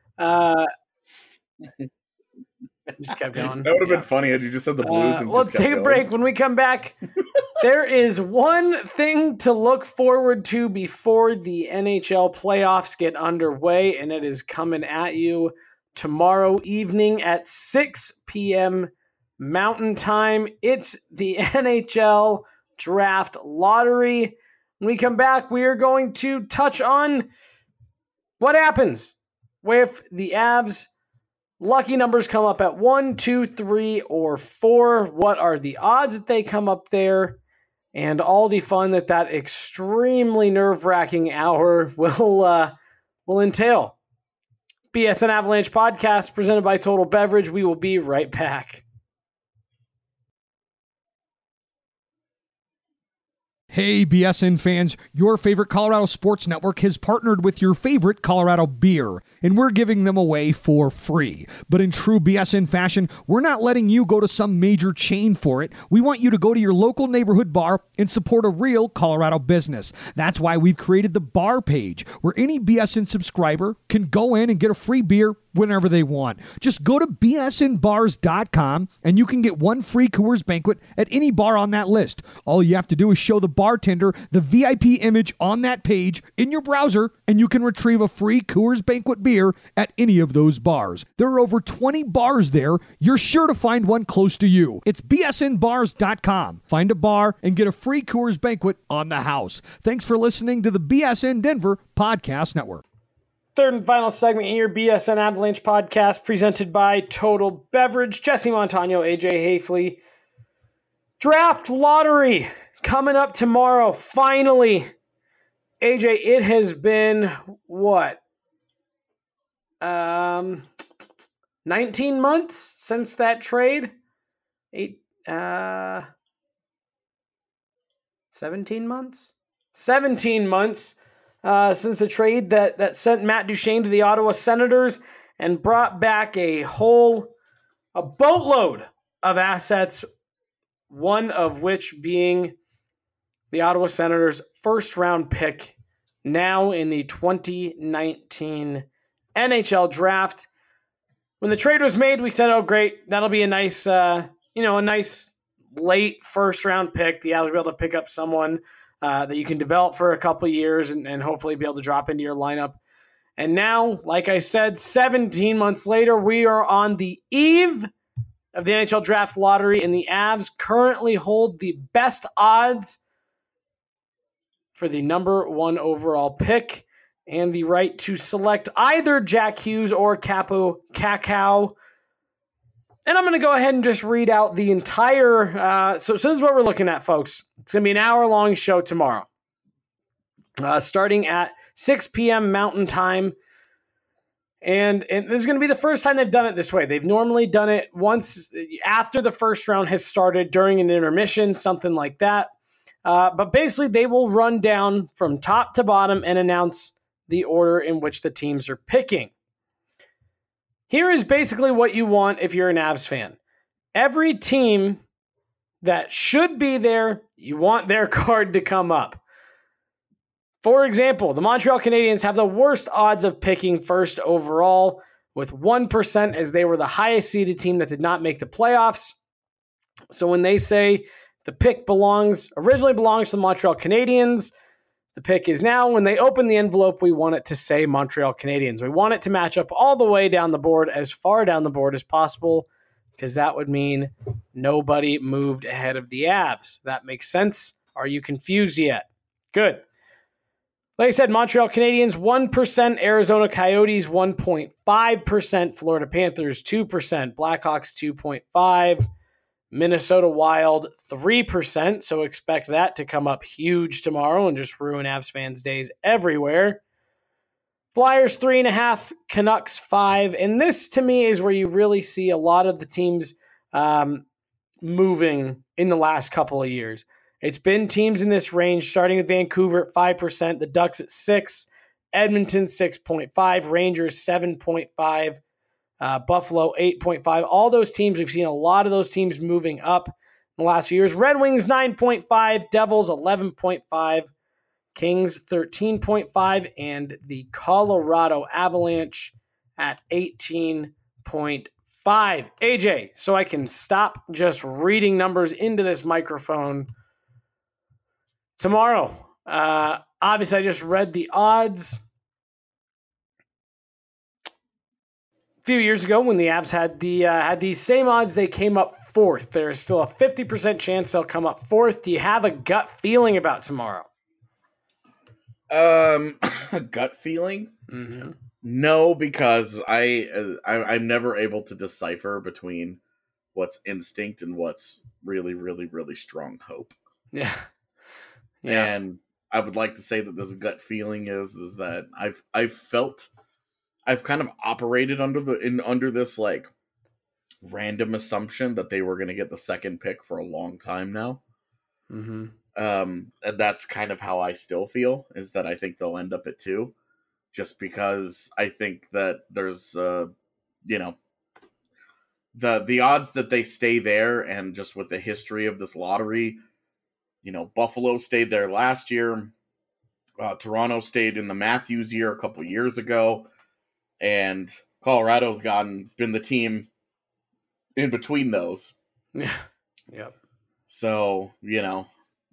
Just kept going. That would have been funny had you just said the Blues. And let's take a break. When we come back, there is one thing to look forward to before the NHL playoffs get underway, and it is coming at you tomorrow evening at 6 p.m. Mountain Time. It's the NHL Draft Lottery. When we come back, we are going to touch on what happens with the Avs. Lucky numbers come up at 1, 2, 3, or 4. What are the odds that they come up there? And all the fun that extremely nerve-wracking hour will entail. BSN Avalanche podcast presented by Total Beverage. We will be right back. Hey, BSN fans, your favorite Colorado Sports Network has partnered with your favorite Colorado beer, and we're giving them away for free. But in true BSN fashion, we're not letting you go to some major chain for it. We want you to go to your local neighborhood bar and support a real Colorado business. That's why we've created the bar page, where any BSN subscriber can go in and get a free beer whenever they want. Just go to bsnbars.com and you can get one free Coors Banquet at any bar on that list. All you have to do is show the bartender the VIP image on that page in your browser, and you can retrieve a free Coors Banquet beer at any of those bars. There are over 20 bars there. You're sure to find one close to you. It's bsnbars.com. Find a bar and get a free Coors Banquet on the house. Thanks for listening to the BSN Denver Podcast Network. Third and final segment here, BSN Avalanche podcast presented by Total Beverage. Jesse Montano, AJ Hafley. Draft lottery coming up tomorrow. Finally, AJ, it has been what? 19 months since that trade? 17 months? 17 months. Since the trade that sent Matt Duchene to the Ottawa Senators and brought back a boatload of assets, one of which being the Ottawa Senators' first-round pick, now in the 2019 NHL Draft. When the trade was made, we said, "Oh, great, that'll be a nice, a nice late first-round pick. The Avs will be able to pick up someone that you can develop for a couple of years and hopefully be able to drop into your lineup." And now, like I said, 17 months later, we are on the eve of the NHL Draft Lottery, and the Avs currently hold the best odds for the number 1 overall pick and the right to select either Jack Hughes or Kaapo Kakko. And I'm going to go ahead and just read out the entire... So this is what we're looking at, folks. It's going to be an hour-long show tomorrow. Starting at 6 p.m. Mountain Time. And this is going to be the first time they've done it this way. They've normally done it once after the first round has started, during an intermission, something like that. But basically, they will run down from top to bottom and announce the order in which the teams are picking. Here is basically what you want if you're an Avs fan. Every team that should be there, you want their card to come up. For example, the Montreal Canadiens have the worst odds of picking first overall, with 1%, as they were the highest seeded team that did not make the playoffs. So when they say The pick originally belongs to the Montreal Canadiens. The pick is now, when they open the envelope, we want it to say Montreal Canadiens. We want it to match up all the way down the board, as far down the board as possible, because that would mean nobody moved ahead of the Avs. That makes sense. Are you confused yet? Good. Like I said, Montreal Canadiens 1%, Arizona Coyotes 1.5%, Florida Panthers 2%, Blackhawks 2.5%, Minnesota Wild 3%, so expect that to come up huge tomorrow and just ruin Avs fans' days everywhere. Flyers 3.5%, Canucks 5%, and this to me is where you really see a lot of the teams moving in the last couple of years. It's been teams in this range, starting with Vancouver at 5%, the Ducks at 6%, Edmonton 6.5%, Rangers 7.5%, Buffalo 8.5%. All those teams, we've seen a lot of those teams moving up in the last few years. Red Wings 9.5%, Devils 11.5%, Kings 13.5%, and the Colorado Avalanche at 18.5%. AJ, so I can stop just reading numbers into this microphone. Tomorrow, obviously I just read the odds. Few years ago when the Avs had these same odds, they came up fourth. There's still a 50% chance they'll come up fourth. Do you have a gut feeling about tomorrow? A gut feeling? Mm-hmm. No, because I'm never able to decipher between what's instinct and what's really, really, really strong hope. Yeah. And I would like to say that this gut feeling is that I've kind of operated under this like random assumption that they were going to get the second pick for a long time now. Mm-hmm. And that's kind of how I still feel, is that I think they'll end up at 2, just because I think that there's the odds that they stay there, and just with the history of this lottery, Buffalo stayed there last year. Toronto stayed in the Matthews year a couple years ago. And Colorado's been the team in between those. Yeah. Yep. So, when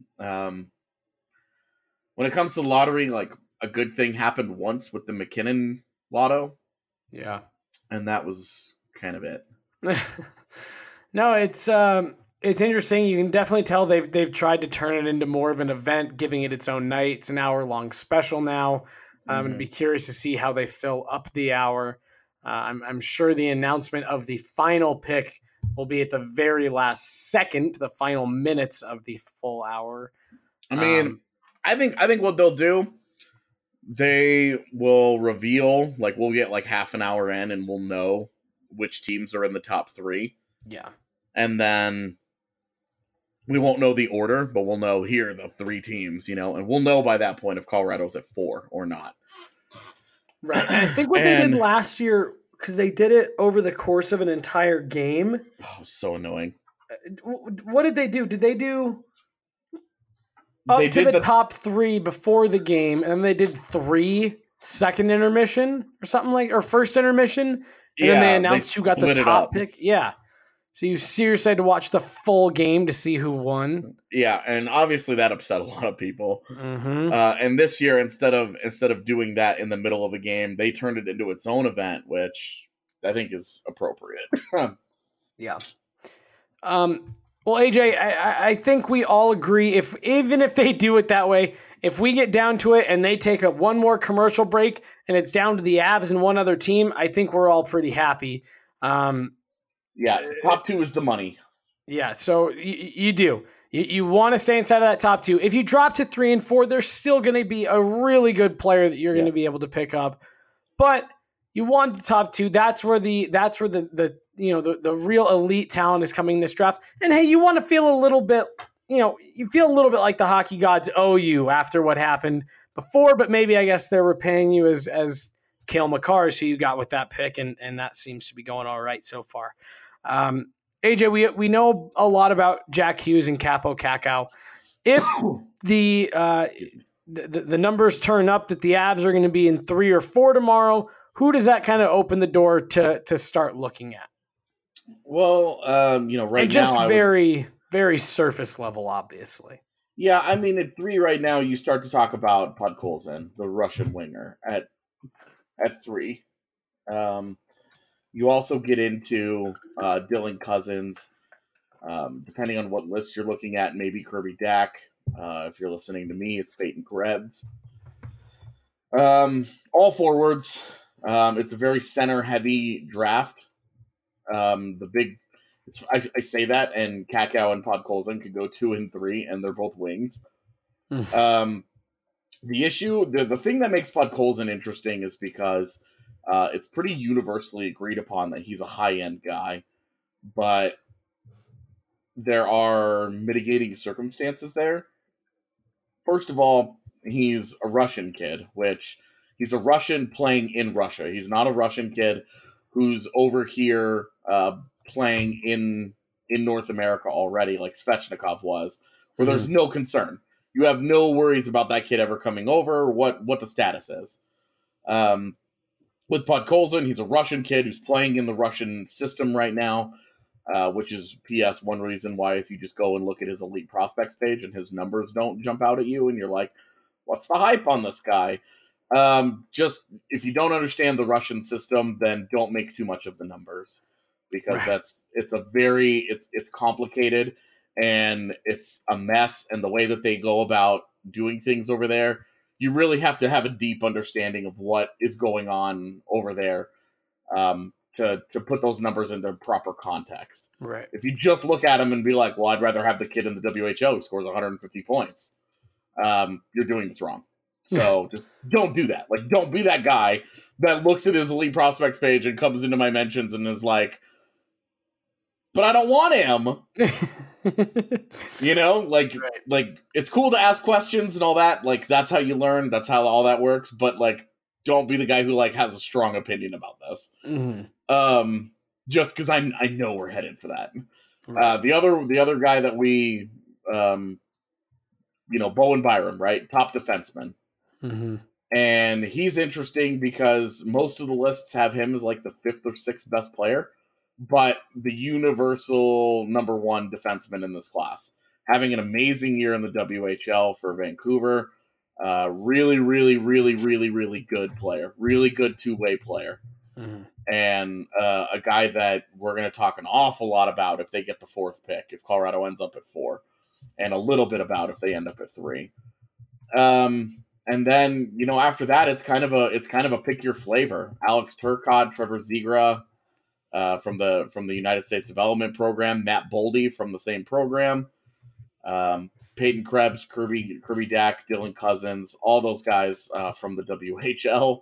it comes to the lottery, like, a good thing happened once with the McKinnon lotto. Yeah. And that was kind of it. No, it's interesting. You can definitely tell they've tried to turn it into more of an event, giving it its own night. It's an hour-long special now. I'm going to be curious to see how they fill up the hour. I'm sure the announcement of the final pick will be at the very last second, the final minutes of the full hour. I mean, I think what they'll do, they will reveal, like, we'll get like half an hour in and we'll know which teams are in the top 3. Yeah. And then we won't know the order, but we'll know here are the 3 teams, and we'll know by that point if Colorado's at 4 or not. Right. I think what they did last year, because they did it over the course of an entire game. Oh, so annoying. What did they do? Did they do the top 3 before the game, and then they did 3 second intermission or first intermission, and then they announced who got the top pick? Yeah. So you seriously had to watch the full game to see who won. Yeah, and obviously that upset a lot of people. Mm-hmm. And this year, instead of doing that in the middle of a game, they turned it into its own event, which I think is appropriate. Yeah. Well, AJ, I think we all agree, even if they do it that way, if we get down to it and they take one more commercial break and it's down to the Avs and one other team, I think we're all pretty happy. Yeah, top 2 is the money. Yeah, so you do. You want to stay inside of that top 2. If you drop to 3 and 4, there's still going to be a really good player that you're going to be able to pick up. But you want the top 2. That's where the real elite talent is coming in this draft. And hey, you want to feel a little bit, you feel a little bit like the hockey gods owe you after what happened before, but maybe I guess they're repaying you as Cale Makar is who you got with that pick, and that seems to be going all right so far. AJ, we know a lot about Jack Hughes and Capo Kakao. If the numbers turn up that the Avs are going to be in 3 or 4 tomorrow, who does that kind of open the door to start looking at? Well, right and just now, very surface level, obviously. Yeah, I mean, at 3 right now, you start to talk about Podkolzin, the Russian winger, at 3. You also get into Dylan Cousins, depending on what list you're looking at, maybe Kirby Dack. If you're listening to me, it's Peyton Krebs. All forwards. It's a very center-heavy draft. I say that, and Kakao and Podkolzin could go 2 and 3, and they're both wings. The thing that makes Podkolzin interesting is because it's pretty universally agreed upon that he's a high-end guy, but there are mitigating circumstances there. First of all, he's a Russian kid, which he's a Russian playing in Russia. He's not a Russian kid who's over here playing in North America already, like Svechnikov was, where there's no concern. You have no worries about that kid ever coming over, what the status is. With Podkolzin, he's a Russian kid who's playing in the Russian system right now, which is P.S. one reason why if you just go and look at his elite prospects page and his numbers don't jump out at you and you're like, what's the hype on this guy? Just if you don't understand the Russian system, then don't make too much of the numbers, because it's complicated and it's a mess, and the way that they go about doing things over there, you really have to have a deep understanding of what is going on over there to put those numbers into proper context. Right. If you just look at them and be like, well, I'd rather have the kid in the WHO who scores 150 points, you're doing this wrong. So just don't do that. Like, don't be that guy that looks at his elite prospects page and comes into my mentions and is like, but I don't want him. You know, like it's cool to ask questions and all that. Like, that's how you learn. That's how all that works. But like, don't be the guy who like has a strong opinion about this. Mm-hmm. Just because I know we're headed for that. Right. The other guy that we, Bowen Byram, right? Top defenseman. Mm-hmm. And he's interesting because most of the lists have him as like the 5th or 6th best player, but the universal number 1 defenseman in this class, having an amazing year in the WHL for Vancouver. Really, really, really, really, really good player. Really good two-way player. Mm-hmm. And a guy that we're going to talk an awful lot about if they get the 4th pick, if Colorado ends up at 4, and a little bit about if they end up at 3. And then, after that, it's kind of a pick your flavor. Alex Turcotte, Trevor Zegra from the United States Development Program, Matt Boldy from the same program, Peyton Krebs, Kirby Dack, Dylan Cousins, all those guys from the WHL.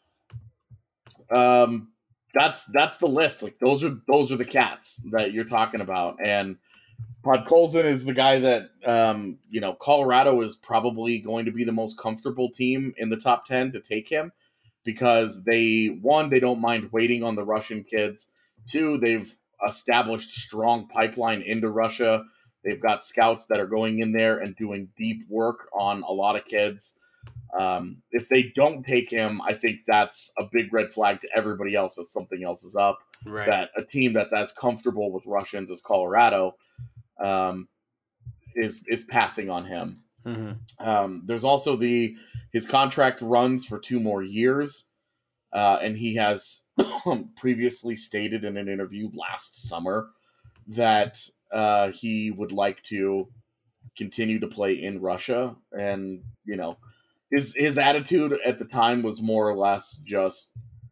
That's the list. Like, those are the cats that you're talking about. And Podkolzin is the guy that, Colorado is probably going to be the most comfortable team in the top 10 to take him, because they don't mind waiting on the Russian kids. 2, they've established strong pipeline into Russia. They've got scouts that are going in there and doing deep work on a lot of kids. If they don't take him, I think that's a big red flag to everybody else that something else is up. Right. That a team that's as comfortable with Russians as Colorado is passing on him. Mm-hmm. There's also his contract runs for 2 more years, and he has previously stated in an interview last summer that he would like to continue to play in Russia. And his attitude at the time was more or less just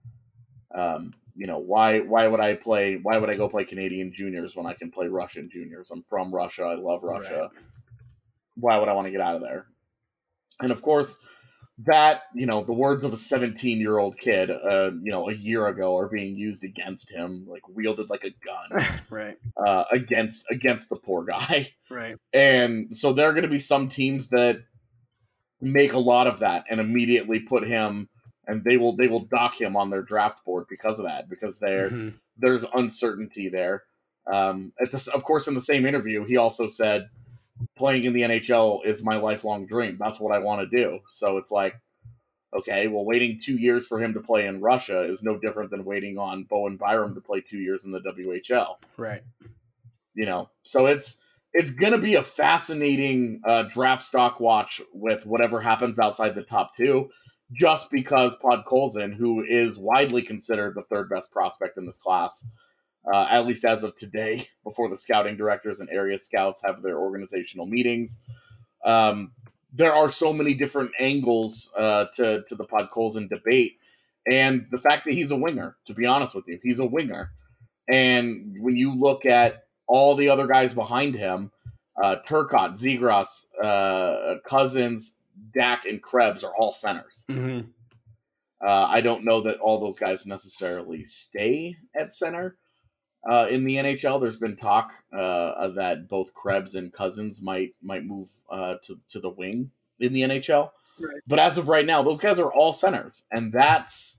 why would I go play Canadian juniors when I can play Russian juniors? I'm from Russia. I love Russia. Right. Why would I want to get out of there? And of course, that, the words of a 17-year-old kid, a year ago are being used against him, like wielded like a gun, right? Against the poor guy, right? And so there are going to be some teams that make a lot of that and immediately put him, and they will dock him on their draft board because of that, because there's uncertainty there. Of course, in the same interview, he also said, playing in the NHL is my lifelong dream. That's what I want to do. So it's like, okay, well, waiting 2 years for him to play in Russia is no different than waiting on Bowen Byram to play 2 years in the WHL. Right. So it's it's going to be a fascinating draft stock watch with whatever happens outside the top 2, just because Podkolzin, who is widely considered the third best prospect in this class, at least as of today, before the scouting directors and area scouts have their organizational meetings. There are so many different angles to the Podkolzin debate. And the fact that he's a winger, to be honest with you, he's a winger. And when you look at all the other guys behind him, Turcotte, Zegras, Cousins, Dak, and Krebs are all centers. Mm-hmm. I don't know that all those guys necessarily stay at center in the NHL. There's been talk that both Krebs and Cousins might move to the wing in the NHL. Right. But as of right now, those guys are all centers. And that's,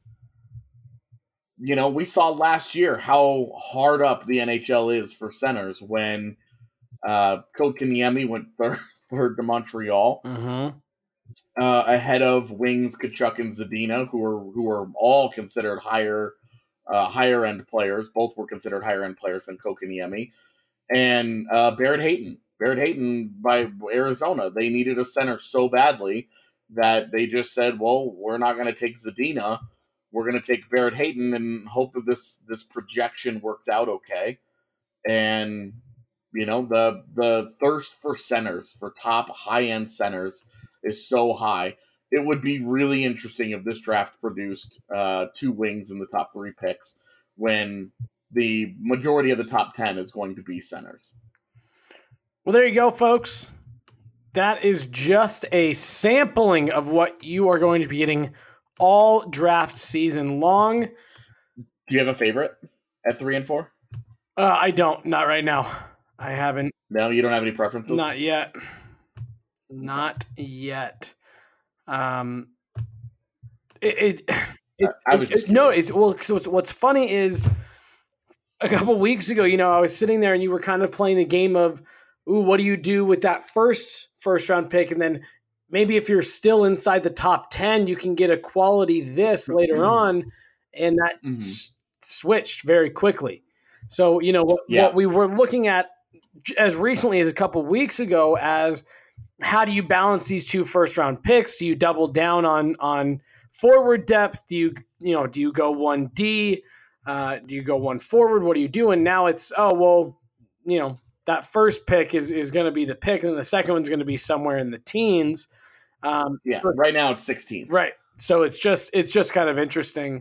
we saw last year how hard up the NHL is for centers when Kotkaniemi went third to Montreal. Mm-hmm. Ahead of wings Tkachuk and Zadina, who are all considered higher end players. Both were considered higher end players than Kotkaniemi. And Barrett Hayton by Arizona. They needed a center so badly that they just said, well, we're not going to take Zadina. We're going to take Barrett Hayton and hope that this projection works out okay. And, the thirst for centers, for top high-end centers, is so high. It would be really interesting if this draft produced 2 wings in the top 3 picks when the majority of the top 10 is going to be centers. Well, there you go, folks. That is just a sampling of what you are going to be getting all draft season long. Do you have a favorite at 3 and 4? I don't. Not right now. I haven't. No, you don't have any preferences? Not yet. Not yet. So what's funny is a couple weeks ago, I was sitting there and you were kind of playing the game of, ooh, what do you do with that first round pick? And then maybe if you're still inside the top 10, you can get a quality this later on. And that switched very quickly. So, what we were looking at as recently as a couple weeks ago as how do you balance these 2 first-round picks? Do you double down on forward depth? Do you go 1D? Do you go 1 forward? What are you doing? Now it's, that first pick is going to be the pick, and the second one's going to be somewhere in the teens. Right now it's 16. Right. So it's just kind of interesting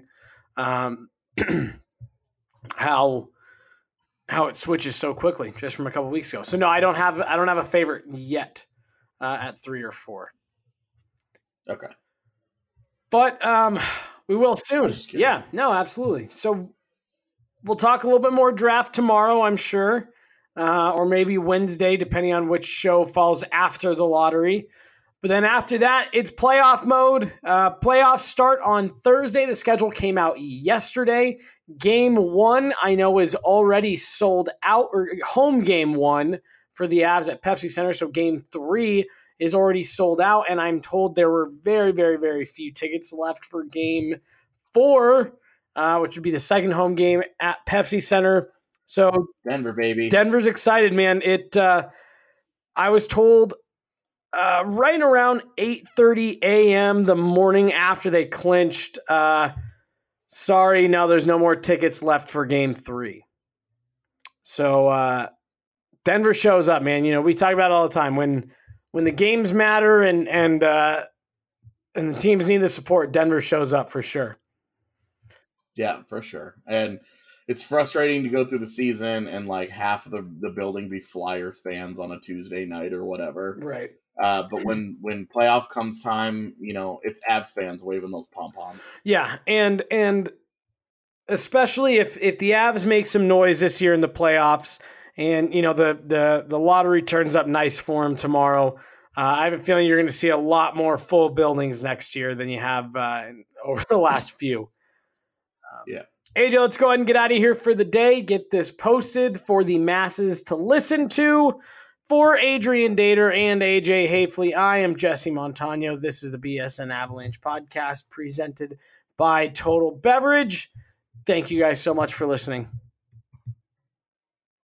how it switches so quickly just from a couple weeks ago. So no, I don't have a favorite yet at 3 or 4. Okay. But we will soon. Yeah, no, absolutely. So we'll talk a little bit more draft tomorrow, I'm sure, or maybe Wednesday, depending on which show falls after the lottery. But then after that, it's playoff mode. Playoffs start on Thursday. The schedule came out yesterday. Game 1, I know, is already sold out, or home game 1 for the Avs at Pepsi Center. So game 3 is already sold out, and I'm told there were very, very, very few tickets left for game 4, which would be the second home game at Pepsi Center. So Denver, baby. Denver's excited, man. I was told right around 8:30 a.m. the morning after they clinched, sorry, now there's no more tickets left for game 3. So Denver shows up, man. We talk about it all the time. When the games matter and the teams need the support, Denver shows up for sure. Yeah, for sure. And it's frustrating to go through the season and like half of the building be Flyers fans on a Tuesday night or whatever. Right. But when playoff comes time, it's Avs fans waving those pom-poms. Yeah, and especially if the Avs make some noise this year in the playoffs, and the lottery turns up nice for them tomorrow, I have a feeling you're going to see a lot more full buildings next year than you have over the last few. Yeah. AJ, let's go ahead and get out of here for the day. Get this posted for the masses to listen to. For Adrian Dater and AJ Hafley, I am Jesse Montano. This is the BSN Avalanche podcast presented by Total Beverage. Thank you guys so much for listening.